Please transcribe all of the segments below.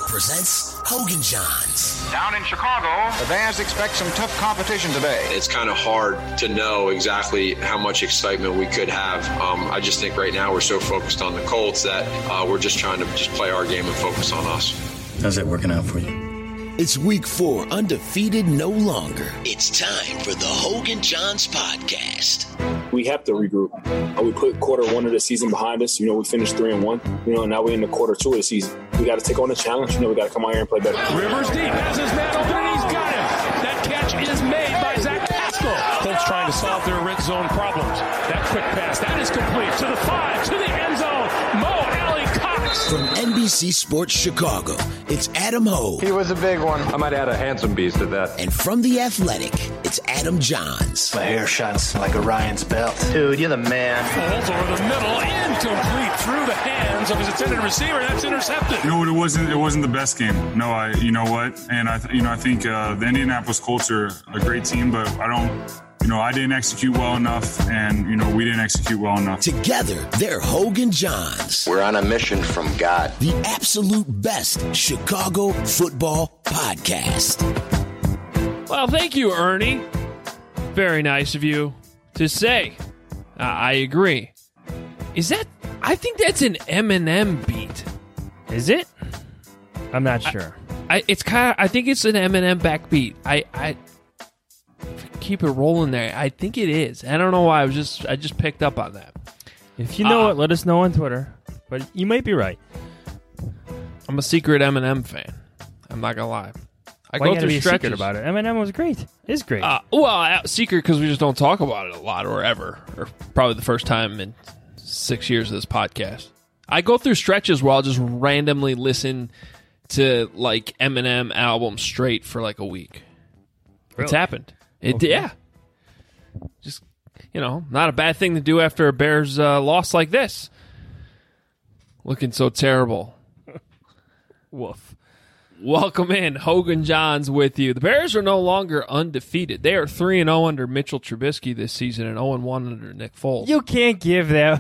presents Hogan Johns. Down in Chicago, the Bears expect some tough competition today. It's kind of hard to know exactly how much excitement we could have. I just think right now we're so focused on the Colts that we're just trying to just play our game and focus on us. How's that working out for you? It's week 4, undefeated no longer. It's time for the Hogan Johns podcast. We have to regroup. We put quarter 1 of the season behind us. We finished 3-1. And now we're in the quarter 2 of the season. We got to take on the challenge. We got to come out here and play better. Rivers deep, has his man open, and he's got him. That catch is made by Zach Pascal. Colts trying to solve their red zone problems. That quick pass, that is complete to the 5, to the end zone. Mo Alley-Cox. From NBC Sports Chicago, it's Adam Hogue. He was a big one. I might add a handsome beast to that. And from The Athletic, it's Adam Johns. My hair shines like Orion's belt. Dude, you're the man. Falls over the middle, incomplete through the hands of his intended receiver. That's intercepted. No, it wasn't the best game. No, you know what? And I think the Indianapolis Colts are a great team, but I didn't execute well enough, and we didn't execute well enough. Together, they're Hogan Johns. We're on a mission from God. The absolute best Chicago football podcast. Well, thank you, Ernie. Very nice of you to say. I agree. I think that's an Eminem beat. Is it? I'm not sure. I think it's an Eminem backbeat. I keep it rolling there. I think it is. I don't know why. I just picked up on that. If you know it, let us know on Twitter. But you might be right. I'm a secret Eminem fan. I'm not gonna lie. I Why go you through be stretches secret about it. Eminem was great. Is great. Secret because we just don't talk about it a lot or ever, or probably the first time in 6 years of this podcast. I go through stretches where I'll just randomly listen to like Eminem albums straight for like a week. Really? It's happened. Okay. Yeah. Just, not a bad thing to do after a Bears loss like this. Looking so terrible. Woof. Welcome in. Hogan Johns with you. The Bears are no longer undefeated. They are 3-0 under Mitchell Trubisky this season and 0-1 under Nick Foles. You can't give that.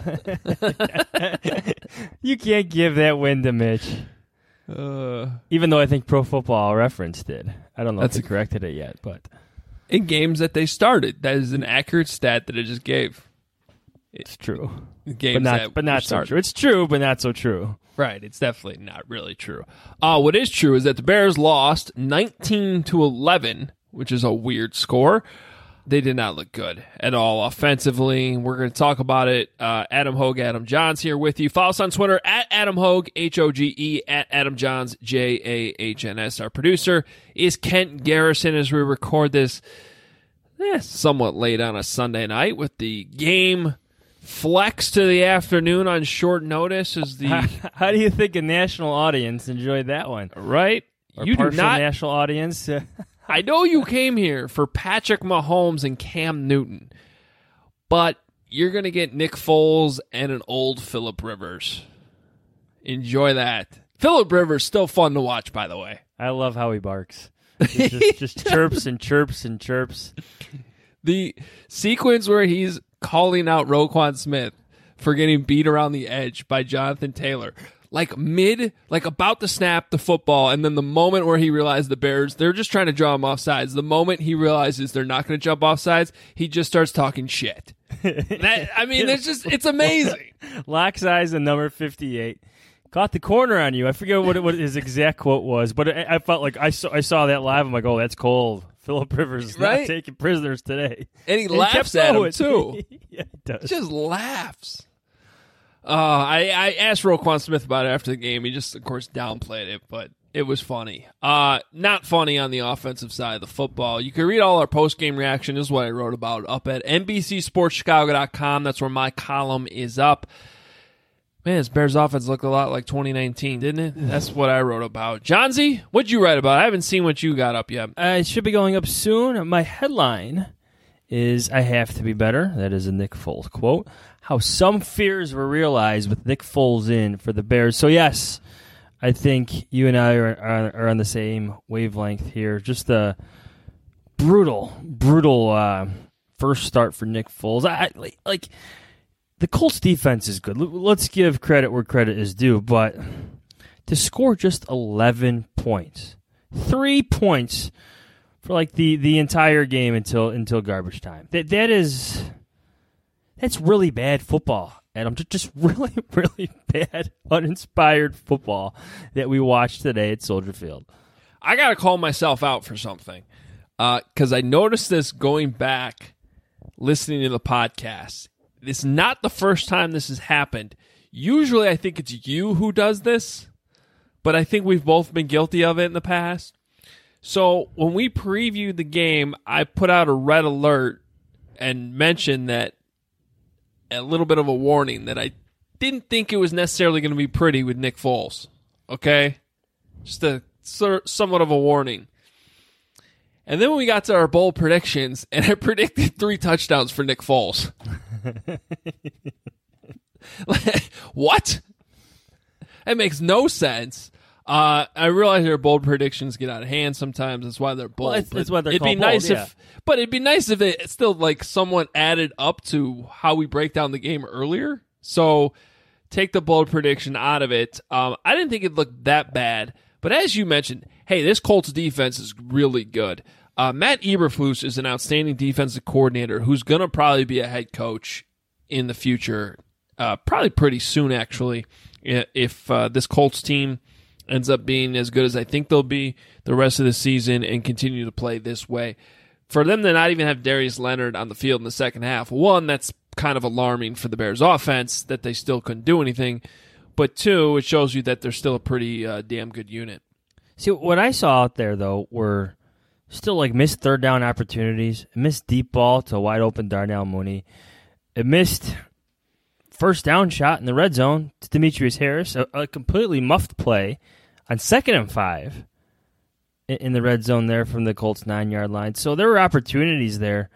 You can't give that win to Mitch. Even though I think Pro Football Reference did. I don't know if they corrected it yet, but in games that they started, that is an accurate stat that it just gave. It's true. Games but not so true. It's true, but not so true. Right, it's definitely not really true. What is true is that the Bears lost 19-11, which is a weird score. They did not look good at all offensively. We're going to talk about it. Adam Hogue, Adam Johns here with you. Follow us on Twitter at Adam Hogue, Hoge, at Adam Johns, Jahns. Our producer is Kent Garrison as we record this somewhat late on a Sunday night with the game flex to the afternoon on short notice. How do you think a national audience enjoyed that one? Right? Or you do not national audience. I know you came here for Patrick Mahomes and Cam Newton, but you're going to get Nick Foles and an old Phillip Rivers. Enjoy that. Phillip Rivers still fun to watch, by the way. I love how he barks. Just chirps and chirps and chirps. The sequence where he's calling out Roquan Smith for getting beat around the edge by Jonathan Taylor. About to snap the football, and then the moment where he realized the Bears, they're just trying to draw him off sides. The moment he realizes they're not going to jump off sides, he just starts talking shit. It's amazing. Locks eyes and number 58. Caught the corner on you. I forget what his exact quote was, but I felt like I saw that live. I'm like, oh, that's cold. Phillip Rivers is not taking prisoners today. And he laughs at him, too. Yeah, he does. He just laughs. I asked Roquan Smith about it after the game. He just, of course, downplayed it, but it was funny. Not funny on the offensive side of the football. You can read all our post-game reaction. This is what I wrote about up at NBCSportsChicago.com. That's where my column is up. Man, this Bears offense looked a lot like 2019, didn't it? That's what I wrote about. Johnsy, what'd you write about? I haven't seen what you got up yet. It should be going up soon. My headline is, I have to be better. That is a Nick Foles quote. How some fears were realized with Nick Foles in for the Bears. So, yes, I think you and I are on the same wavelength here. Just a brutal first start for Nick Foles. The Colts defense is good. Let's give credit where credit is due, but to score just 11 points. 3 points for like the entire game until garbage time. That's really bad football, Adam. Just really, really bad, uninspired football that we watched today at Soldier Field. I got to call myself out for something because I noticed this going back, listening to the podcast. It's not the first time this has happened. Usually I think it's you who does this, but I think we've both been guilty of it in the past. So when we previewed the game, I put out a red alert and mentioned that a little bit of a warning that I didn't think it was necessarily going to be pretty with Nick Foles. Okay? Just a somewhat of a warning. And then when we got to our bold predictions, and I predicted 3 touchdowns for Nick Foles. What? That makes no sense. I realize their bold predictions get out of hand sometimes. That's why they're bold. Well, it's why they're it'd called be nice bold, but it'd be nice if it still like someone added up to how we break down the game earlier. So take the bold prediction out of it. I didn't think it looked that bad. But as you mentioned, hey, this Colts defense is really good. Matt Eberflus is an outstanding defensive coordinator who's going to probably be a head coach in the future, probably pretty soon, actually, if this Colts team ends up being as good as I think they'll be the rest of the season and continue to play this way. For them to not even have Darius Leonard on the field in the second half, one, that's kind of alarming for the Bears offense that they still couldn't do anything. But two, it shows you that they're still a pretty damn good unit. See, what I saw out there, though, were still like missed third down opportunities, missed deep ball to wide open Darnell Mooney. It missed first down shot in the red zone to Demetrius Harris, a completely muffed play on 2nd and 5 in the red zone there from the Colts 9-yard line. So there were opportunities there.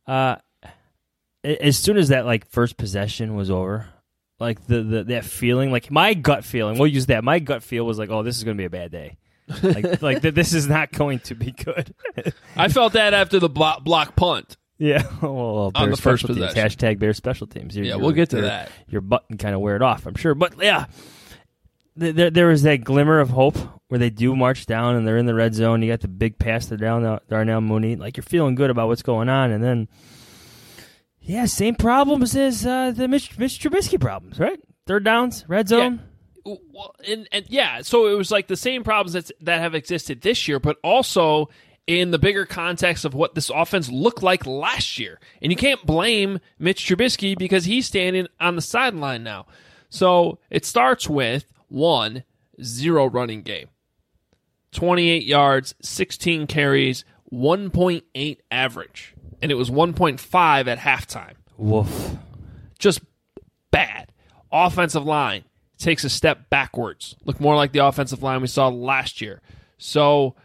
As soon as that like first possession was over, like that feeling, like my gut feeling, we'll use that. My gut feel was like, oh, this is going to be a bad day. like this is not going to be good. I felt that after the block punt. Yeah, well, on the first possession. Hashtag Bears special teams. We'll get to that. Your butt can kind of wear it off, I'm sure. But yeah, there was that glimmer of hope where they do march down and they're in the red zone. You got the big pass to Darnell Mooney. Like you're feeling good about what's going on, and then same problems as the Mitch Trubisky problems, right? Third downs, red zone. Yeah. Well, and so it was like the same problems that have existed this year, but also in the bigger context of what this offense looked like last year. And you can't blame Mitch Trubisky because he's standing on the sideline now. So it starts with 1, 0 running game. 28 yards, 16 carries, 1.8 average. And it was 1.5 at halftime. Woof. Just bad. Offensive line takes a step backwards. Look more like the offensive line we saw last year. So,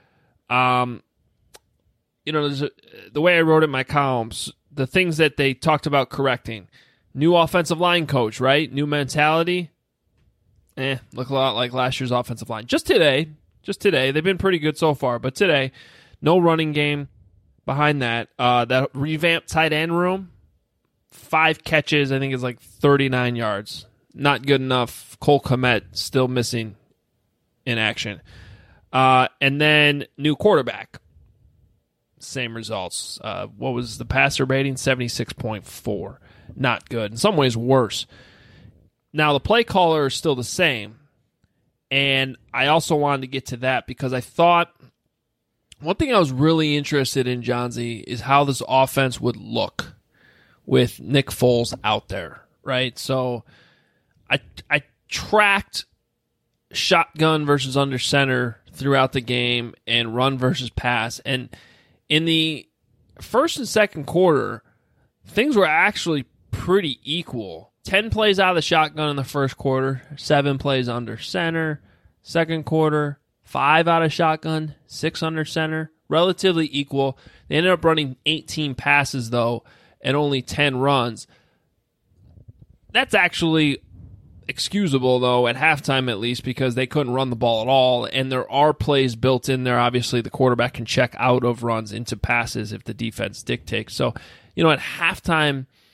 the way I wrote it in my columns, the things that they talked about correcting. New offensive line coach, right? New mentality. Look a lot like last year's offensive line. Just today. They've been pretty good so far, but today, no running game behind that. That revamped tight end room, 5 catches, I think it's like 39 yards. Not good enough. Cole Kmet still missing in action. And then new quarterback. Same results. What was the passer rating? 76.4. Not good. In some ways, worse. Now, the play caller is still the same. And I also wanted to get to that because I thought one thing I was really interested in, Johnsy, is how this offense would look with Nick Foles out there, right? So I tracked shotgun versus under center throughout the game and run versus pass. And in the first and second quarter, things were actually pretty equal. 10 plays out of the shotgun in the first quarter, 7 plays under center. Second quarter, 5 out of shotgun, 6 under center. Relatively equal. They ended up running 18 passes, though, and only 10 runs. That's actually excusable, though, at halftime at least, because they couldn't run the ball at all, and there are plays built in there. Obviously, the quarterback can check out of runs into passes if the defense dictates. So, at halftime,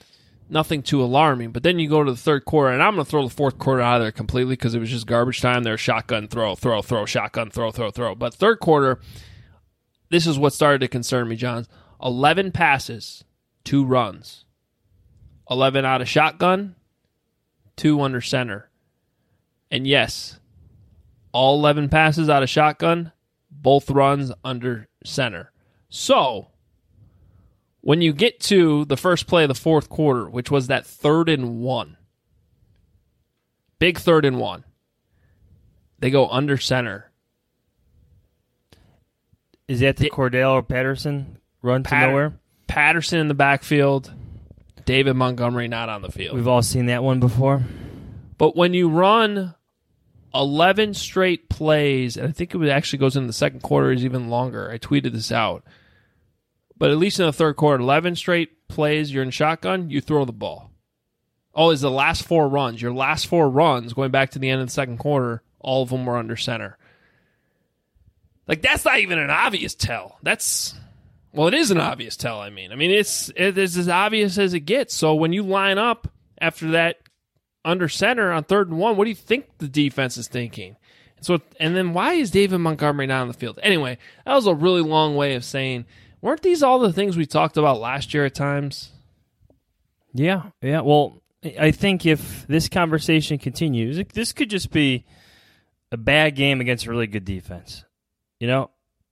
nothing too alarming. But then you go to the third quarter, and I'm going to throw the fourth quarter out of there completely because it was just garbage time. They're shotgun, throw, shotgun, throw. But third quarter, this is what started to concern me, John. 11 passes, 2 runs. 11 out of shotgun, 2 under center. And yes, all 11 passes out of shotgun, both runs under center. So, when you get to the first play of the fourth quarter, which was that 3rd and 1, big 3rd and 1, they go under center. Is that the Cordell or Patterson run to nowhere? Patterson in the backfield, David Montgomery not on the field. We've all seen that one before. But when you run 11 straight plays, and I think it actually goes in the second quarter is even longer. I tweeted this out. But at least in the third quarter, 11 straight plays, you're in shotgun, you throw the ball. Oh, it's the last 4 runs. Your last 4 runs, going back to the end of the second quarter, all of them were under center. Like, that's not even an obvious tell. Well, it is an obvious tell, I mean. It's as obvious as it gets. So when you line up after that under center on 3rd and 1, what do you think the defense is thinking? And then why is David Montgomery not on the field? Anyway, that was a really long way of saying, weren't these all the things we talked about last year at times? Yeah. Well, I think if this conversation continues, this could just be a bad game against a really good defense. You know,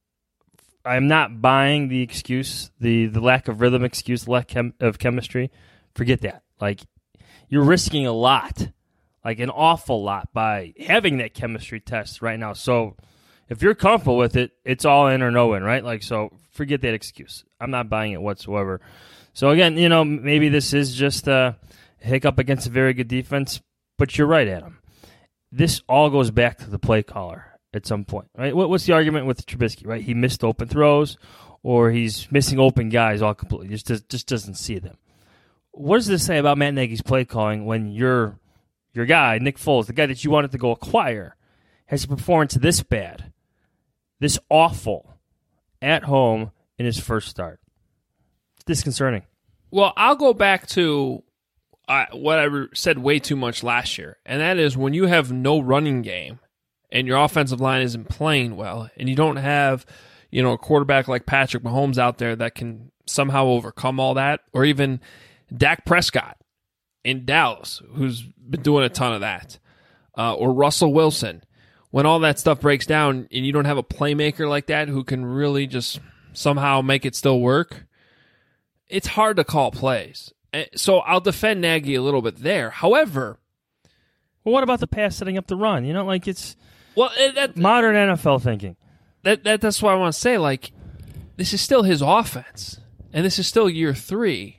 I'm not buying the excuse, the lack of rhythm excuse, lack of chemistry. Forget that. Like, you're risking a lot, like an awful lot, by having that chemistry test right now. So if you're comfortable with it, it's all in or no in, right? Like, so forget that excuse. I'm not buying it whatsoever. So again, you know, maybe this is just a hiccup against a very good defense, but you're right, Adam. This all goes back to the play caller at some point, right? What's the argument with Trubisky, right? He missed open throws, or he's missing open guys all completely. Just doesn't see them. What does this say about Matt Nagy's play calling when your guy, Nick Foles, the guy that you wanted to go acquire, has a performance this bad, this awful, at home in his first start? It's disconcerting. Well, I'll go back to what I said way too much last year, and that is when you have no running game and your offensive line isn't playing well, and you don't have, you know, a quarterback like Patrick Mahomes out there that can somehow overcome all that, or even Dak Prescott in Dallas, who's been doing a ton of that, or Russell Wilson. When all that stuff breaks down and you don't have a playmaker like that who can really just somehow make it still work, it's hard to call plays. So I'll defend Nagy a little bit there. However, well, what about the pass setting up the run? You know, like it's that, modern NFL thinking. That's what I want to say. Like, this is still his offense, and this is still year 3.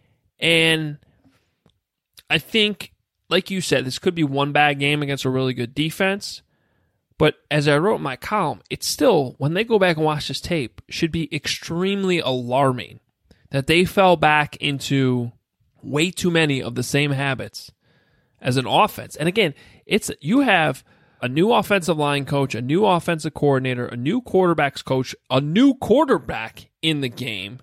And I think, like you said, this could be one bad game against a really good defense. But as I wrote in my column, it's still, when they go back and watch this tape, should be extremely alarming that they fell back into way too many of the same habits as an offense. And again, you have a new offensive line coach, a new offensive coordinator, a new quarterbacks coach, a new quarterback in the game.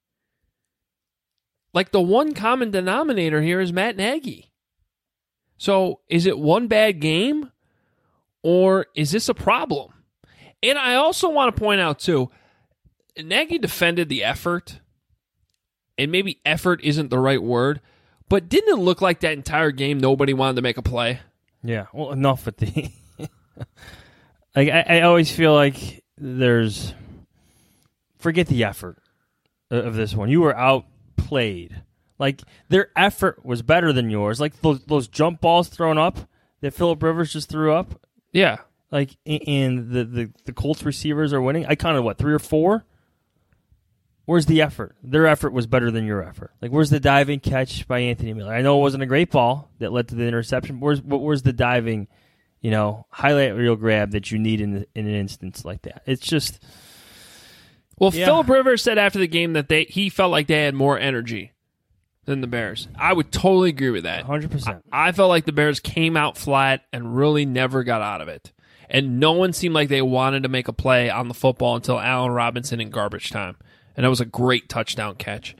Like, the one common denominator here is Matt Nagy. So is it one bad game, or is this a problem? And I also want to point out, too, Nagy defended the effort, and maybe effort isn't the right word, but didn't it look like that entire game nobody wanted to make a play? Yeah, well, enough with the... like, I always feel like there's... Forget the effort of this one. You were outplayed. Like, their effort was better than yours. Like, those jump balls thrown up that Phillip Rivers just threw up. Yeah. Like, and the Colts receivers are winning. I counted, 3 or 4? Where's the effort? Their effort was better than your effort. Like, where's the diving catch by Anthony Miller? I know it wasn't a great ball that led to the interception. Where's the diving, highlight reel grab that you need in an instance like that? It's just... Well, yeah. Phillip Rivers said after the game that he felt like they had more energy than the Bears. I would totally agree with that. 100%. I felt like the Bears came out flat and really never got out of it. And no one seemed like they wanted to make a play on the football until Allen Robinson in garbage time. And that was a great touchdown catch.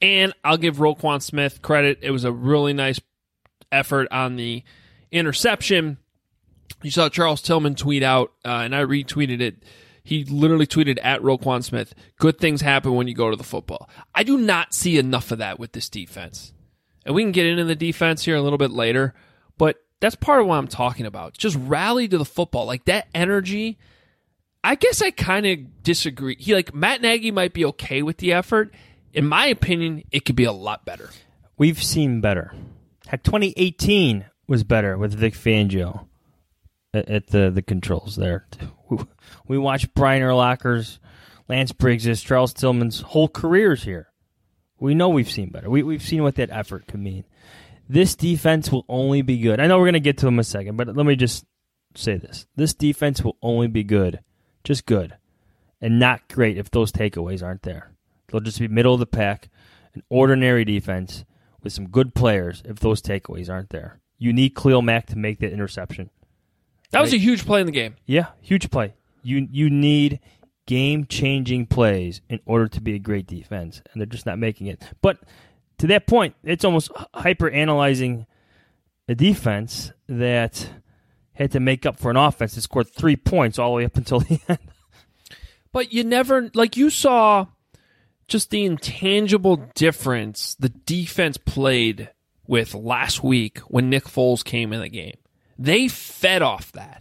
And I'll give Roquan Smith credit. It was a really nice effort on the interception. You saw Charles Tillman tweet out, and I retweeted it. He literally tweeted at Roquan Smith, "Good things happen when you go to the football." I do not see enough of that with this defense. And we can get into the defense here a little bit later, but that's part of what I'm talking about. Just rally to the football. Like that energy, I guess I kind of disagree. Matt Nagy might be okay with the effort. In my opinion, it could be a lot better. We've seen better. Heck, 2018 was better with Vic Fangio at the controls there. We watched Brian Urlacher's, Lance Briggs', Charles Tillman's whole careers here. We know we've seen better. We've seen what that effort could mean. This defense will only be good. I know we're going to get to them in a second, but let me just say this. This defense will only be good, just good, and not great if those takeaways aren't there. They'll just be middle of the pack, an ordinary defense with some good players if those takeaways aren't there. You need Khalil Mack to make that interception. That was a huge play in the game. Yeah, huge play. You need game-changing plays in order to be a great defense, and they're just not making it. But to that point, it's almost hyper-analyzing a defense that had to make up for an offense that scored 3 points all the way up until the end. But you never, you saw just the intangible difference the defense played with last week when Nick Foles came in the game. They fed off that.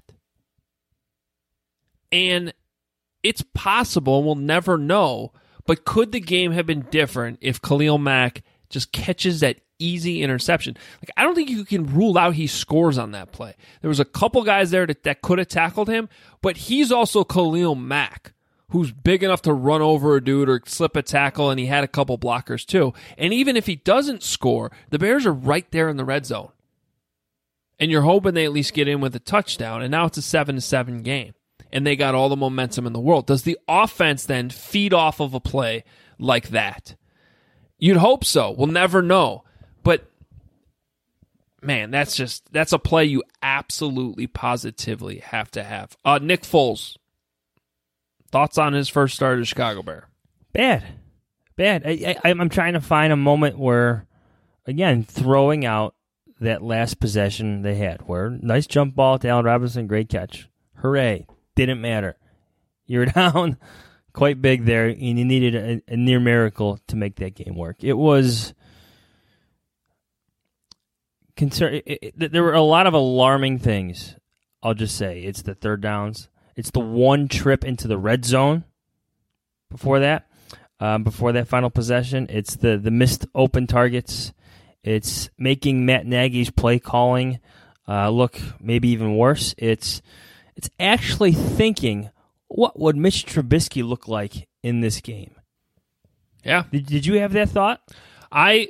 And it's possible, we'll never know, but could the game have been different if Khalil Mack just catches that easy interception? I don't think you can rule out he scores on that play. There was a couple guys there that could have tackled him, but he's also Khalil Mack, who's big enough to run over a dude or slip a tackle, and he had a couple blockers too. And even if he doesn't score, the Bears are right there in the red zone. And you're hoping they at least get in with a touchdown, and now it's a 7-7 game. And they got all the momentum in the world. Does the offense then feed off of a play like that? You'd hope so. We'll never know. But, man, that's a play you absolutely, positively have to have. Nick Foles, thoughts on his first start as Chicago Bear? Bad. I'm trying to find a moment where, again, throwing out that last possession they had, where nice jump ball to Allen Robinson, great catch. Hooray. Didn't matter. You were down quite big there, and you needed a near miracle to make that game work. It was there were a lot of alarming things, I'll just say. It's the third downs. It's the one trip into the red zone before that final possession. It's the missed open targets. It's making Matt Nagy's play calling look maybe even worse. It's actually thinking, what would Mitch Trubisky look like in this game? Yeah. Did you have that thought? I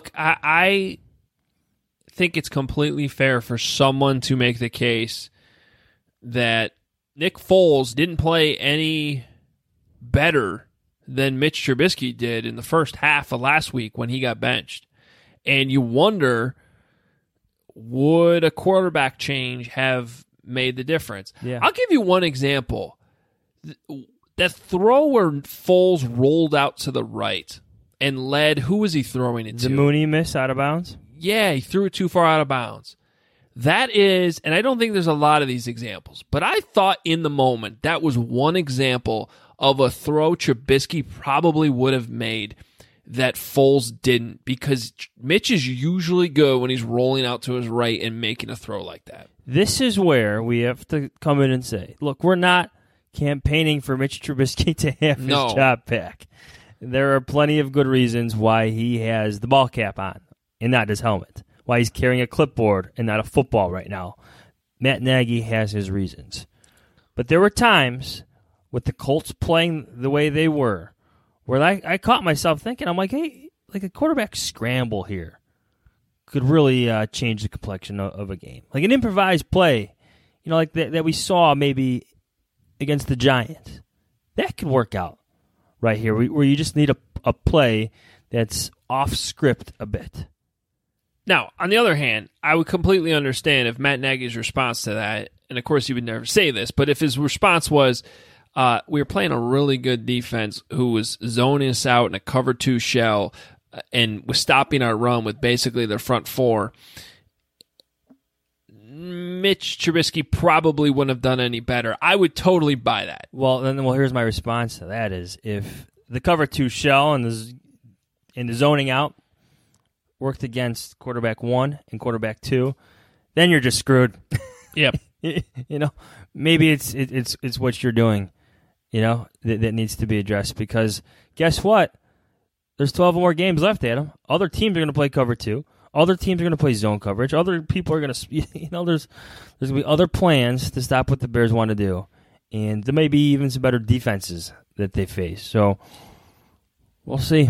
think it's completely fair for someone to make the case that Nick Foles didn't play any better than Mitch Trubisky did in the first half of last week when he got benched. And you wonder, would a quarterback change have made the difference? Yeah. I'll give you one example. That throw where Foles rolled out to the right and led, who was he throwing it to? The Mooney miss out of bounds? Yeah, he threw it too far out of bounds. That is, and I don't think there's a lot of these examples, but I thought in the moment that was one example of a throw Trubisky probably would have made that Foles didn't, because Mitch is usually good when he's rolling out to his right and making a throw like that. This is where we have to come in and say, look, we're not campaigning for Mitch Trubisky to have his job back. There are plenty of good reasons why he has the ball cap on and not his helmet, why he's carrying a clipboard and not a football right now. Matt Nagy has his reasons. But there were times with the Colts playing the way they were where I caught myself thinking, I'm like, hey, like a quarterback scramble here could really change the complexion of a game. Like an improvised play, like that we saw maybe against the Giants. That could work out right here, where you just need a play that's off script a bit. Now, on the other hand, I would completely understand if Matt Nagy's response to that, and of course he would never say this, but if his response was, we were playing a really good defense who was zoning us out in a cover 2 shell, and was stopping our run with basically their front four, Mitch Trubisky probably wouldn't have done any better. I would totally buy that. Well, here's my response to that is if the cover 2 shell and the zoning out worked against quarterback 1 and quarterback 2, then you're just screwed. Yep. Maybe it's what you're doing, that needs to be addressed, because guess what? There's 12 more games left, Adam. Other teams are going to play cover 2. Other teams are going to play zone coverage. Other people are going to, there's going to be other plans to stop what the Bears want to do. And there may be even some better defenses that they face. So we'll see.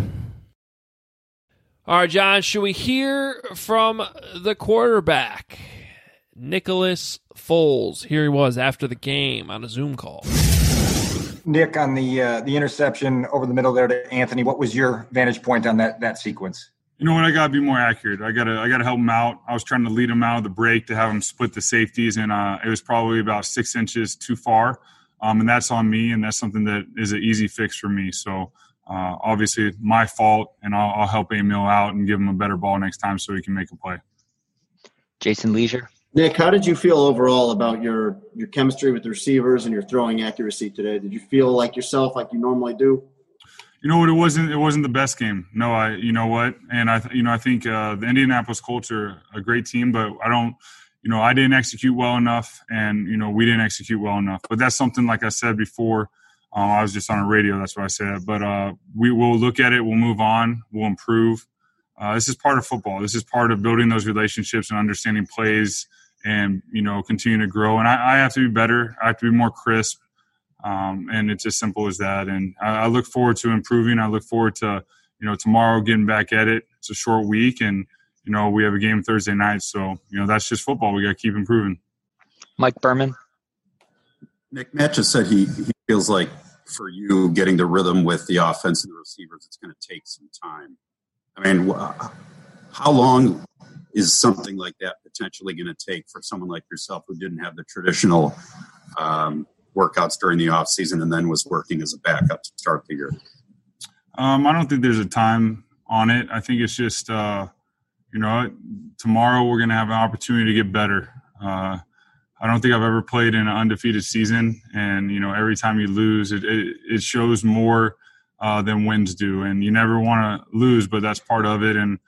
All right, John, should we hear from the quarterback, Nicholas Foles? Here he was after the game on a Zoom call. Nick, on the interception over the middle there to Anthony, what was your vantage point on that sequence? You know what? I got to be more accurate. I got to help him out. I was trying to lead him out of the break to have him split the safeties, and it was probably about 6 inches too far. And that's on me, and that's something that is an easy fix for me. So obviously my fault, and I'll help Emil out and give him a better ball next time so he can make a play. Jason Leisure. Nick, how did you feel overall about your chemistry with the receivers and your throwing accuracy today? Did you feel like yourself, like you normally do? You know what? It wasn't the best game. No, you know what? And I think the Indianapolis Colts are a great team, but I didn't execute well enough, and we didn't execute well enough. But that's something, like I said before, I was just on a radio. That's what I said. But we will look at it. We'll move on. We'll improve. This is part of football. This is part of building those relationships and understanding plays, and continue to grow. And I have to be better. I have to be more crisp. And it's as simple as that. And I look forward to improving. I look forward to, tomorrow getting back at it. It's a short week, and, we have a game Thursday night. So, that's just football. We got to keep improving. Mike Berman. Nick, Matt just said he feels like for you getting the rhythm with the offense and the receivers, it's going to take some time. I mean, how long is something like that potentially going to take for someone like yourself who didn't have the traditional workouts during the off season and then was working as a backup to start the year? I don't think there's a time on it. I think it's just, tomorrow we're going to have an opportunity to get better. I don't think I've ever played in an undefeated season, and, every time you lose, it shows more than wins do. And you never want to lose, but that's part of it. And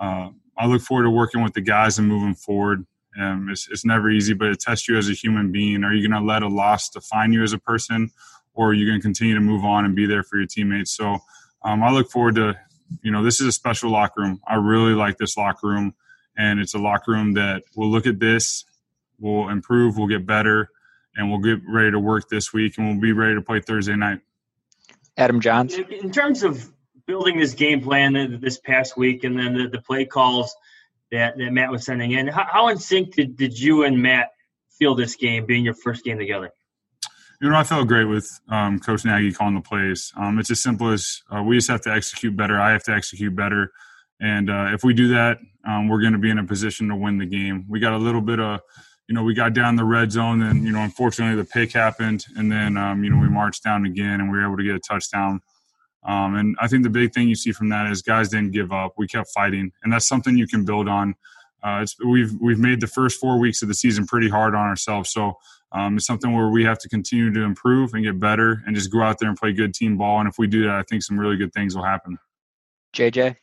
I look forward to working with the guys and moving forward. It's never easy, but it tests you as a human being. Are you going to let a loss define you as a person, or are you going to continue to move on and be there for your teammates? So I look forward to, this is a special locker room. I really like this locker room, and it's a locker room that will look at this, we'll improve, we'll get better, and we'll get ready to work this week, and we'll be ready to play Thursday night. Adam Johns. In terms of building this game plan this past week, and then the play calls that Matt was sending in, how in sync did you and Matt feel this game, being your first game together? I felt great with Coach Nagy calling the plays. It's as simple as we just have to execute better. I have to execute better. And if we do that, we're going to be in a position to win the game. We got a little bit of, we got down the red zone, and, unfortunately the pick happened. And then, we marched down again, and we were able to get a touchdown. And I think the big thing you see from that is guys didn't give up. We kept fighting, and that's something you can build on. We've made the first 4 weeks of the season pretty hard on ourselves. So it's something where we have to continue to improve and get better and just go out there and play good team ball. And if we do that, I think some really good things will happen. JJ?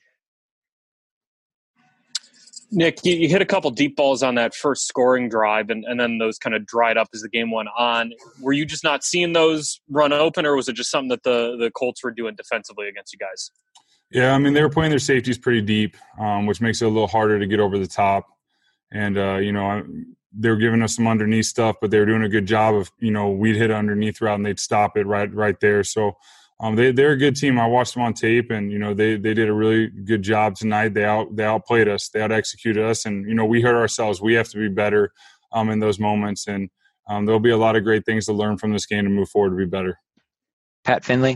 Nick, you hit a couple deep balls on that first scoring drive, and then those kind of dried up as the game went on. Were you just not seeing those run open, or was it just something that the Colts were doing defensively against you guys? Yeah, they were playing their safeties pretty deep, which makes it a little harder to get over the top. And, they were giving us some underneath stuff, but they were doing a good job of, we'd hit underneath route and they'd stop it right there. So they're a good team. I watched them on tape, and, they did a really good job tonight. They outplayed us. They out-executed us. And, we hurt ourselves. We have to be better in those moments. And there'll be a lot of great things to learn from this game to move forward to be better. Pat Finley.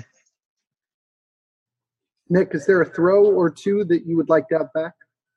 Nick, is there a throw or two that you would like to have back?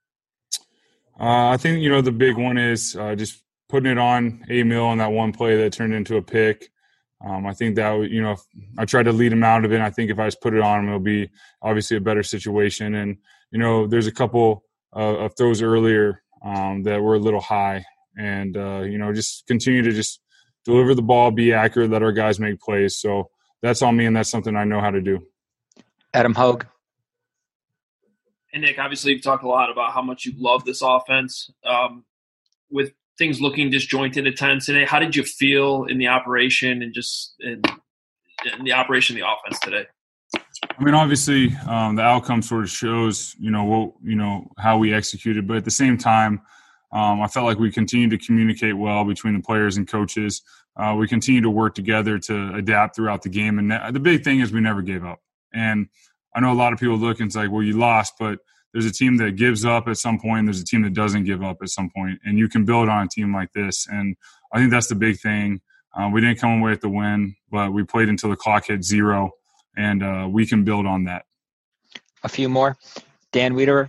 I think, the big one is just putting it on Emil on that one play that turned into a pick. I think that, I tried to lead him out of it. I think if I just put it on him, it'll be obviously a better situation. And, there's a couple of throws earlier that were a little high, and just continue to just deliver the ball, be accurate, let our guys make plays. So that's on me, and that's something I know how to do. Adam Hogue. And Nick, obviously you've talked a lot about how much you love this offense. With things looking disjointed at times today, how did you feel in the operation and just in the operation of the offense today? I mean, obviously, the outcome sort of shows, how we executed. But at the same time, I felt like we continued to communicate well between the players and coaches. We continue to work together to adapt throughout the game. And the big thing is we never gave up. And I know a lot of people look and it's like, well, you lost, but there's a team that gives up at some point. And there's a team that doesn't give up at some point. And you can build on a team like this. And I think that's the big thing. We didn't come away with the win, but we played until the clock hit 0. And we can build on that. A few more. Dan Wiederer.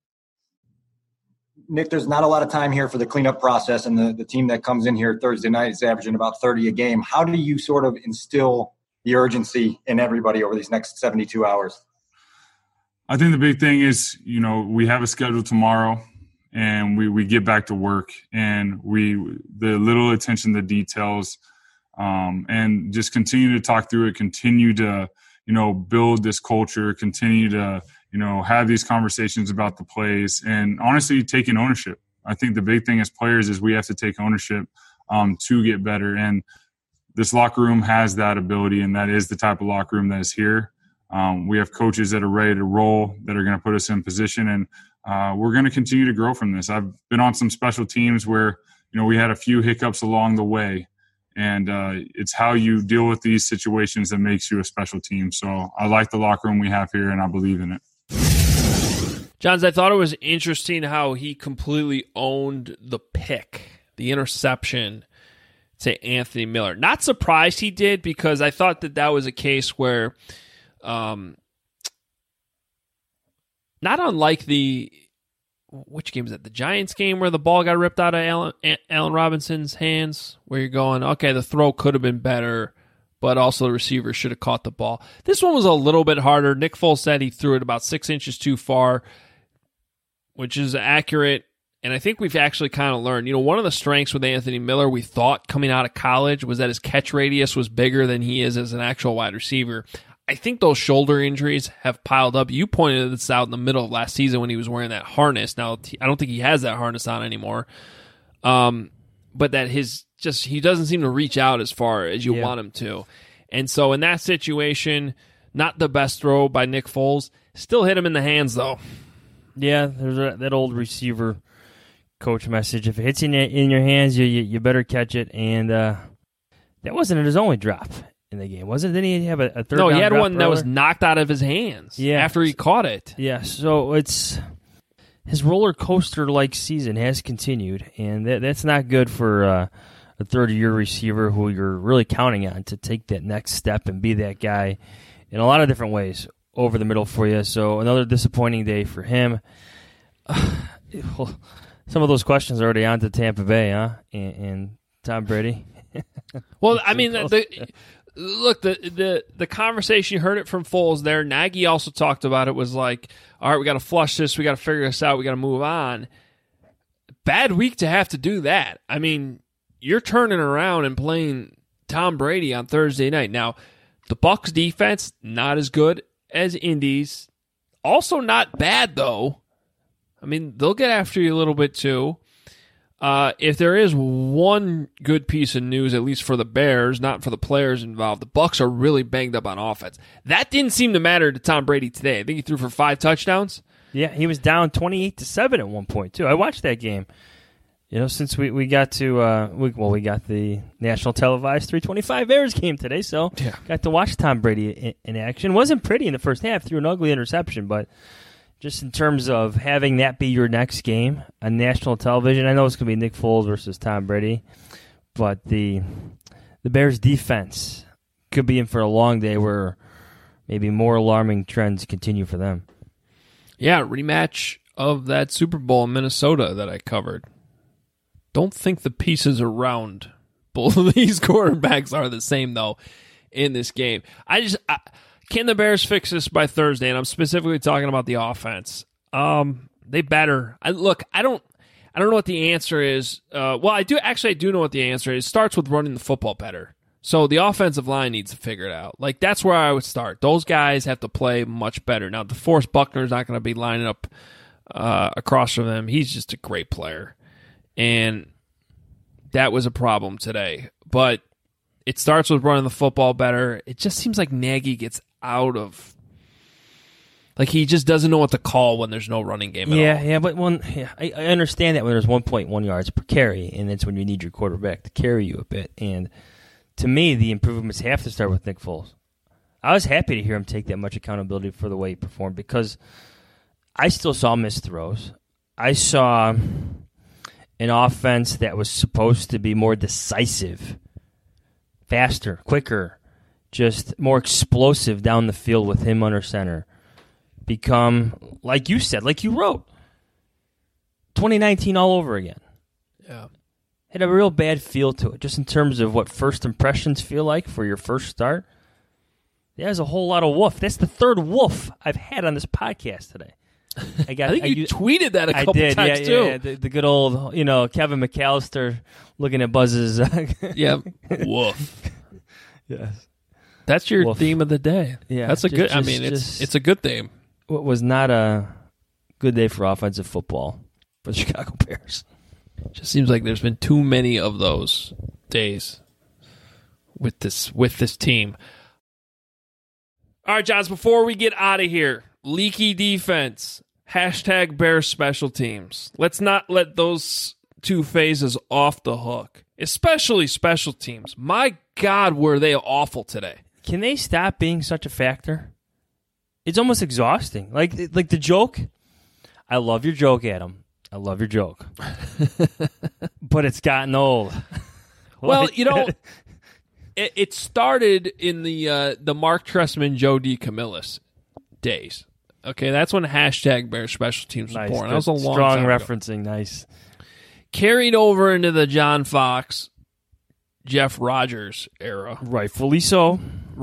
Nick, there's not a lot of time here for the cleanup process, and the team that comes in here Thursday night is averaging about 30 a game. How do you sort of instill the urgency in everybody over these next 72 hours? I think the big thing is, we have a schedule tomorrow, and we get back to work, and the little attention to details, and just continue to talk through it, continue to build this culture, continue to, have these conversations about the plays, and honestly taking ownership. I think the big thing as players is we have to take ownership to get better. And this locker room has that ability, and that is the type of locker room that is here. We have coaches that are ready to roll, that are going to put us in position, and we're going to continue to grow from this. I've been on some special teams where, we had a few hiccups along the way. And it's how you deal with these situations that makes you a special team. So I like the locker room we have here, and I believe in it. Johns, I thought it was interesting how he completely owned the pick, the interception to Anthony Miller. Not surprised he did, because I thought that was a case where, not unlike which game is that? The Giants game where the ball got ripped out of Allen Robinson's hands, where you're going, okay, the throw could have been better, but also the receiver should have caught the ball. This one was a little bit harder. Nick Foles said he threw it about 6 inches too far, which is accurate. And I think we've actually kind of learned, one of the strengths with Anthony Miller, we thought coming out of college, was that his catch radius was bigger than he is as an actual wide receiver. I think those shoulder injuries have piled up. You pointed this out in the middle of last season when he was wearing that harness. Now, I don't think he has that harness on anymore. But that he doesn't seem to reach out as far as you want him to. And so in that situation, not the best throw by Nick Foles. Still hit him in the hands, though. Yeah, there's that old receiver coach message. If it hits in your hands, you better catch it. And that wasn't his only drop in the game, wasn't it? Didn't he have a third? No, he had one that earlier? was knocked out of his hands after he caught it. Yeah, so it's his roller coaster-like season has continued, and that's not good for a third-year receiver who you're really counting on to take that next step and be that guy in a lot of different ways over the middle for you. So another disappointing day for him. Some of those questions are already on to Tampa Bay, huh? And Tom Brady. Well, I mean, look, the conversation, you heard it from Foles there. Nagy also talked about it, was like, all right, we got to flush this. We got to figure this out. We got to move on. Bad week to have to do that. I mean, you're turning around and playing Tom Brady on Thursday night. Now, the Bucs defense, not as good as Indy's. Also not bad, though. I mean, they'll get after you a little bit, too. If there is one good piece of news, at least for the Bears, not for the players involved, the Bucs are really banged up on offense. That didn't seem to matter to Tom Brady today. I think he threw for 5 touchdowns. Yeah, he was down 28-7 at one point, too. I watched that game. Since we got to we got the national televised 325 Bears game today, so got to watch Tom Brady in action. Wasn't pretty in the first half, threw an ugly interception, but just in terms of having that be your next game on national television, I know it's going to be Nick Foles versus Tom Brady, but the Bears defense could be in for a long day where maybe more alarming trends continue for them. Yeah, rematch of that Super Bowl in Minnesota that I covered. Don't think the pieces around both of these quarterbacks are the same, though, in this game. Can the Bears fix this by Thursday? And I'm specifically talking about the offense. They better. I don't know what the answer is. Well, I do know what the answer is. It starts with running the football better. So the offensive line needs to figure it out. Like, that's where I would start. Those guys have to play much better. Now, DeForest Buckner's not going to be lining up across from them. He's just a great player. And that was a problem today. But it starts with running the football better. It just seems like Nagy gets out of... Like, he just doesn't know what to call when there's no running game at all. Yeah, but I understand that when there's 1.1 yards per carry, and it's when you need your quarterback to carry you a bit. And to me, the improvements have to start with Nick Foles. I was happy to hear him take that much accountability for the way he performed because I still saw missed throws. I saw an offense that was supposed to be more decisive, faster, quicker, just more explosive down the field with him under center. Become, like you said, like you wrote, 2019 all over again. Yeah. Had a real bad feel to it, just in terms of what first impressions feel like for your first start. There's a whole lot of woof. That's the third woof I've had on this podcast today. I think you tweeted that a couple times, too. Yeah, the good old, Kevin McAllister looking at Buzz's. Yeah, woof. Yes. That's your theme of the day. Yeah. That's it's a good theme. What was not a good day for offensive football for the Chicago Bears. Just seems like there's been too many of those days with this team. All right, Johns, before we get out of here, leaky defense, #Bears special teams. Let's not let those two phases off the hook, especially special teams. My God, were they awful today. Can they stop being such a factor? It's almost exhausting. Like the joke. I love your joke, Adam. I love your joke. But it's gotten old. Well, it started in the Mark Trestman, Joe DeCamillis days. Okay, that's when #Bears special teams was born. That was a long strong time referencing. ago. Nice. Carried over into the John Fox, Jeff Rodgers era. Rightfully so.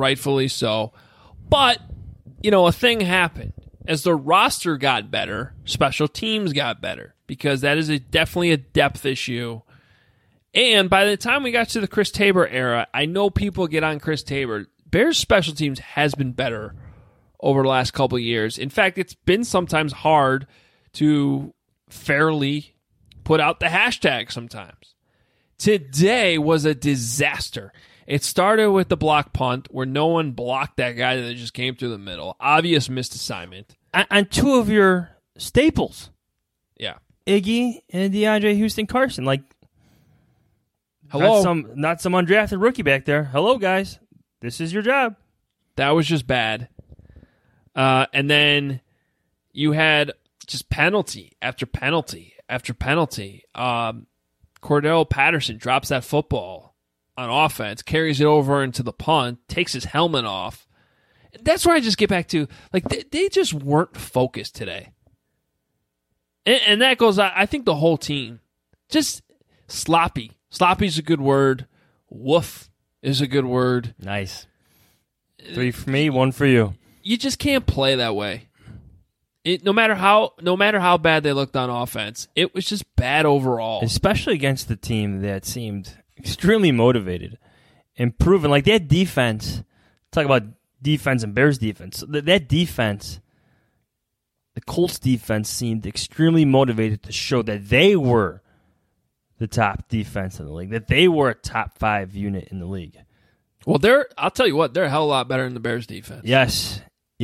But, a thing happened. As the roster got better, special teams got better because that is definitely a depth issue. And by the time we got to the Chris Tabor era, I know people get on Chris Tabor. Bears special teams has been better over the last couple of years. In fact, it's been sometimes hard to fairly put out the hashtag sometimes. Today was a disaster. It started with the block punt where no one blocked that guy that just came through the middle. Obvious missed assignment. On two of your staples. Yeah. Iggy and DeAndre Houston Carson. Like, hello. Not some undrafted rookie back there. Hello, guys. This is your job. That was just bad. And then you had just penalty after penalty after penalty. Cordell Patterson drops that football on offense, carries it over into the punt, takes his helmet off. That's where I just get back to, like, they just weren't focused today. And that goes, I think, the whole team. Just sloppy. Sloppy's a good word. Woof is a good word. Nice. 3 for me, 1 for you. You just can't play that way. No matter how bad they looked on offense, it was just bad overall. Especially against the team that seemed extremely motivated and proven. Like, that defense, talk about defense and Bears defense. That defense, the Colts defense, seemed extremely motivated to show that they were the top defense in the league, that they were a top 5 unit in the league. Well, I'll tell you what, they're a hell of a lot better than the Bears defense. Yes.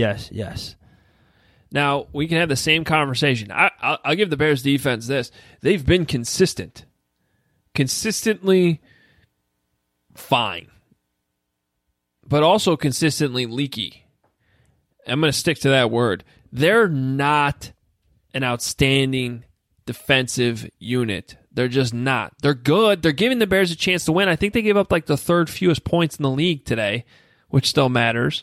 Now, we can have the same conversation. I'll give the Bears defense this. They've been consistent. Consistently fine. But also consistently leaky. I'm going to stick to that word. They're not an outstanding defensive unit. They're just not. They're good. They're giving the Bears a chance to win. I think they gave up like the 3rd fewest points in the league today, which still matters.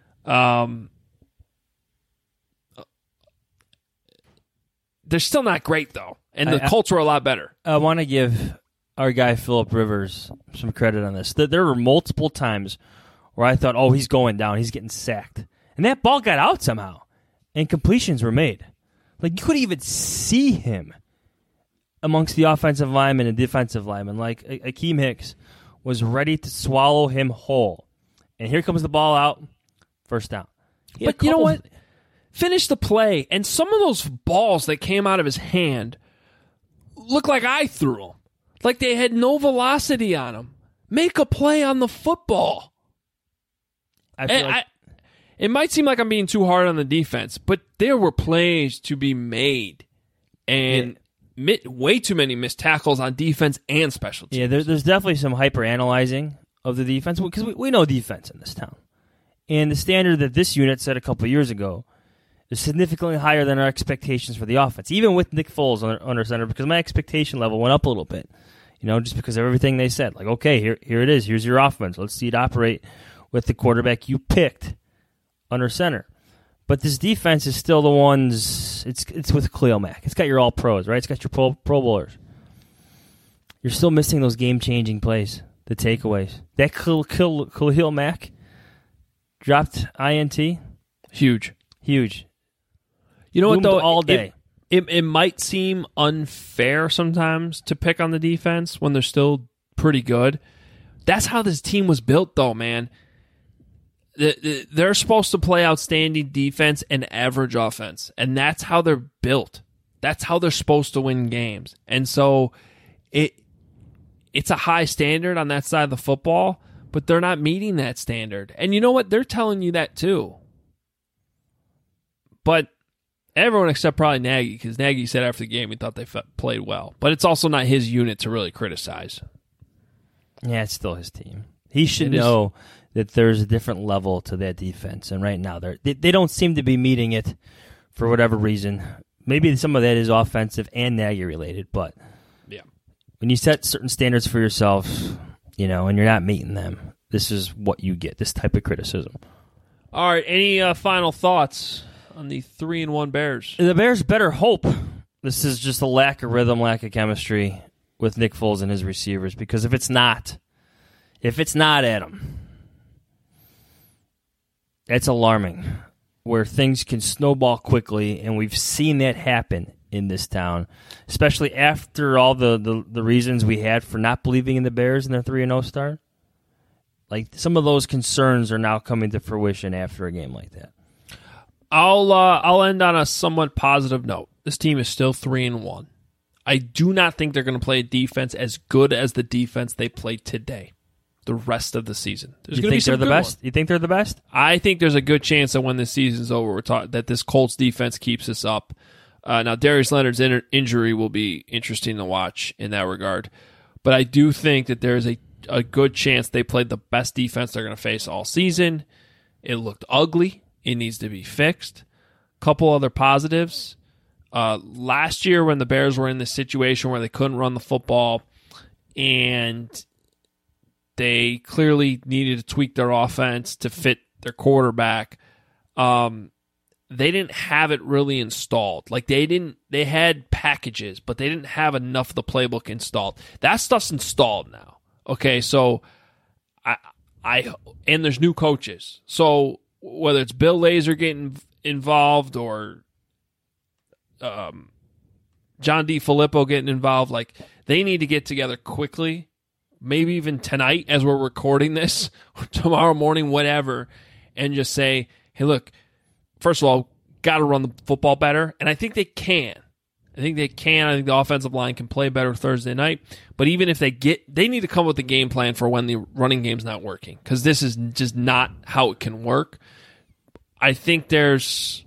They're still not great, though. And the Colts were a lot better. I want to give our guy Phillip Rivers some credit on this. There were multiple times where I thought, he's going down. He's getting sacked. And that ball got out somehow. And completions were made. Like, you couldn't even see him amongst the offensive linemen and defensive linemen. Like, Akeem Hicks was ready to swallow him whole. And here comes the ball out, first down. But you know what? Finish the play, and some of those balls that came out of his hand looked like I threw them. Like they had no velocity on them. Make a play on the football. It might seem like I'm being too hard on the defense, but there were plays to be made. And way too many missed tackles on defense and special teams. Yeah, there's definitely some hyper-analyzing of the defense, because we know defense in this town. And the standard that this unit set a couple of years ago is significantly higher than our expectations for the offense, even with Nick Foles under center, because my expectation level went up a little bit, just because of everything they said. Like, okay, here it is. Here's your offense. Let's see it operate with the quarterback you picked under center. But this defense is still the ones, it's with Khalil Mack. It's got your all-pros, right? It's got your pro bowlers. You're still missing those game-changing plays, the takeaways. That Khalil Mack dropped INT. Huge. You know what, though? All day. It might seem unfair sometimes to pick on the defense when they're still pretty good. That's how this team was built, though, man. They're supposed to play outstanding defense and average offense, and that's how they're built. That's how they're supposed to win games. And so it's a high standard on that side of the football, but they're not meeting that standard. And you know what? They're telling you that too. But everyone except probably Nagy, because Nagy said after the game he thought they played well. But it's also not his unit to really criticize. Yeah, it's still his team. He should know that there's a different level to that defense, and right now they don't seem to be meeting it for whatever reason. Maybe some of that is offensive and Nagy related, but when you set certain standards for yourself, and you're not meeting them, this is what you get, this type of criticism. All right, any final thoughts on the 3-1 Bears? The Bears better hope this is just a lack of rhythm, lack of chemistry with Nick Foles and his receivers, because if it's not, Adam, that's alarming, where things can snowball quickly, and we've seen that happen in this town, especially after all the reasons we had for not believing in the Bears and their 3-0 start. Like, some of those concerns are now coming to fruition after a game like that. I'll end on a somewhat positive note. This team is still 3-1. I do not think they're going to play a defense as good as the defense they played today. The rest of the season. You think they're the best? You think they're the best? I think there's a good chance that when this season's over, that this Colts defense keeps us up. Now, Darius Leonard's injury will be interesting to watch in that regard. But I do think that there's a good chance they played the best defense they're going to face all season. It looked ugly. It needs to be fixed. Couple other positives. Last year when the Bears were in this situation where they couldn't run the football and they clearly needed to tweak their offense to fit their quarterback, they didn't have it really installed. Like they had packages, but they didn't have enough of the playbook installed. That stuff's installed now. Okay, so and there's new coaches. So whether it's Bill Lazor getting involved or John DeFilippo getting involved, like they need to get together quickly, maybe even tonight as we're recording this, or tomorrow morning, whatever, and just say, hey, look, first of all, got to run the football better, and I think they can. I think the offensive line can play better Thursday night, but even if they need to come up with a game plan for when the running game's not working, because this is just not how it can work. I think there's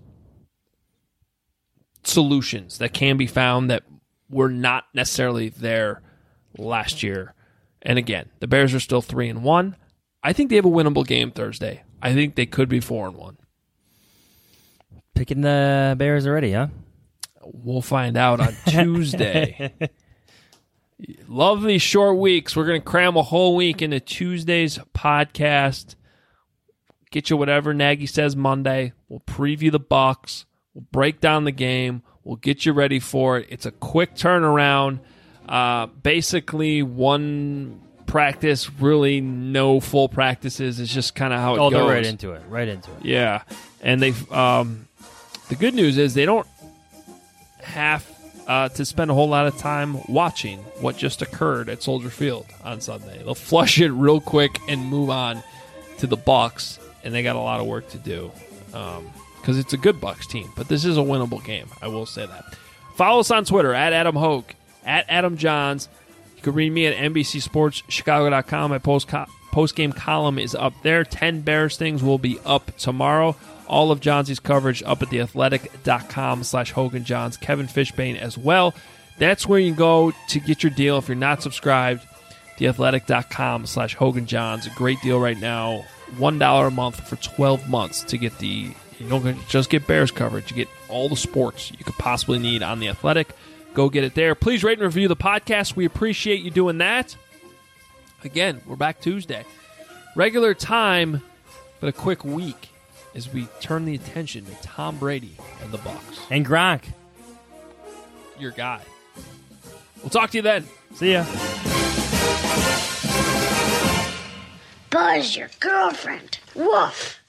solutions that can be found that were not necessarily there last year. And again, the Bears are still 3-1. I think they have a winnable game Thursday. I think they could be 4-1. Picking the Bears already, huh? We'll find out on Tuesday. Love these short weeks. We're going to cram a whole week into Tuesday's podcast. Get you whatever Nagy says Monday. We'll preview the Bucs. We'll break down the game. We'll get you ready for it. It's a quick turnaround. Basically, one practice, really no full practices. It's just kind of how it goes. They're right into it. Yeah. And they've the good news is they don't have to spend a whole lot of time watching what just occurred at Soldier Field on Sunday. They'll flush it real quick and move on to the Bucs, and they got a lot of work to do because it's a good Bucs team. But this is a winnable game. I will say that. Follow us on Twitter at Adam Hogue, at Adam Johns. You can read me at NBCSportsChicago.com. My post-game column is up there. 10 Bears things will be up tomorrow. All of Johnsy's coverage up at theathletic.com/HoganJohns. Kevin Fishbane as well. That's where you go to get your deal if you're not subscribed. Theathletic.com/HoganJohns. A great deal right now. $1 a month for 12 months to get you don't just get Bears coverage. You get all the sports you could possibly need on The Athletic. Go get it there. Please rate and review the podcast. We appreciate you doing that. Again, we're back Tuesday. Regular time, but a quick week as we turn the attention to Tom Brady and the Bucs. And Gronk. Your guy. We'll talk to you then. See ya. Buzz your girlfriend. Woof.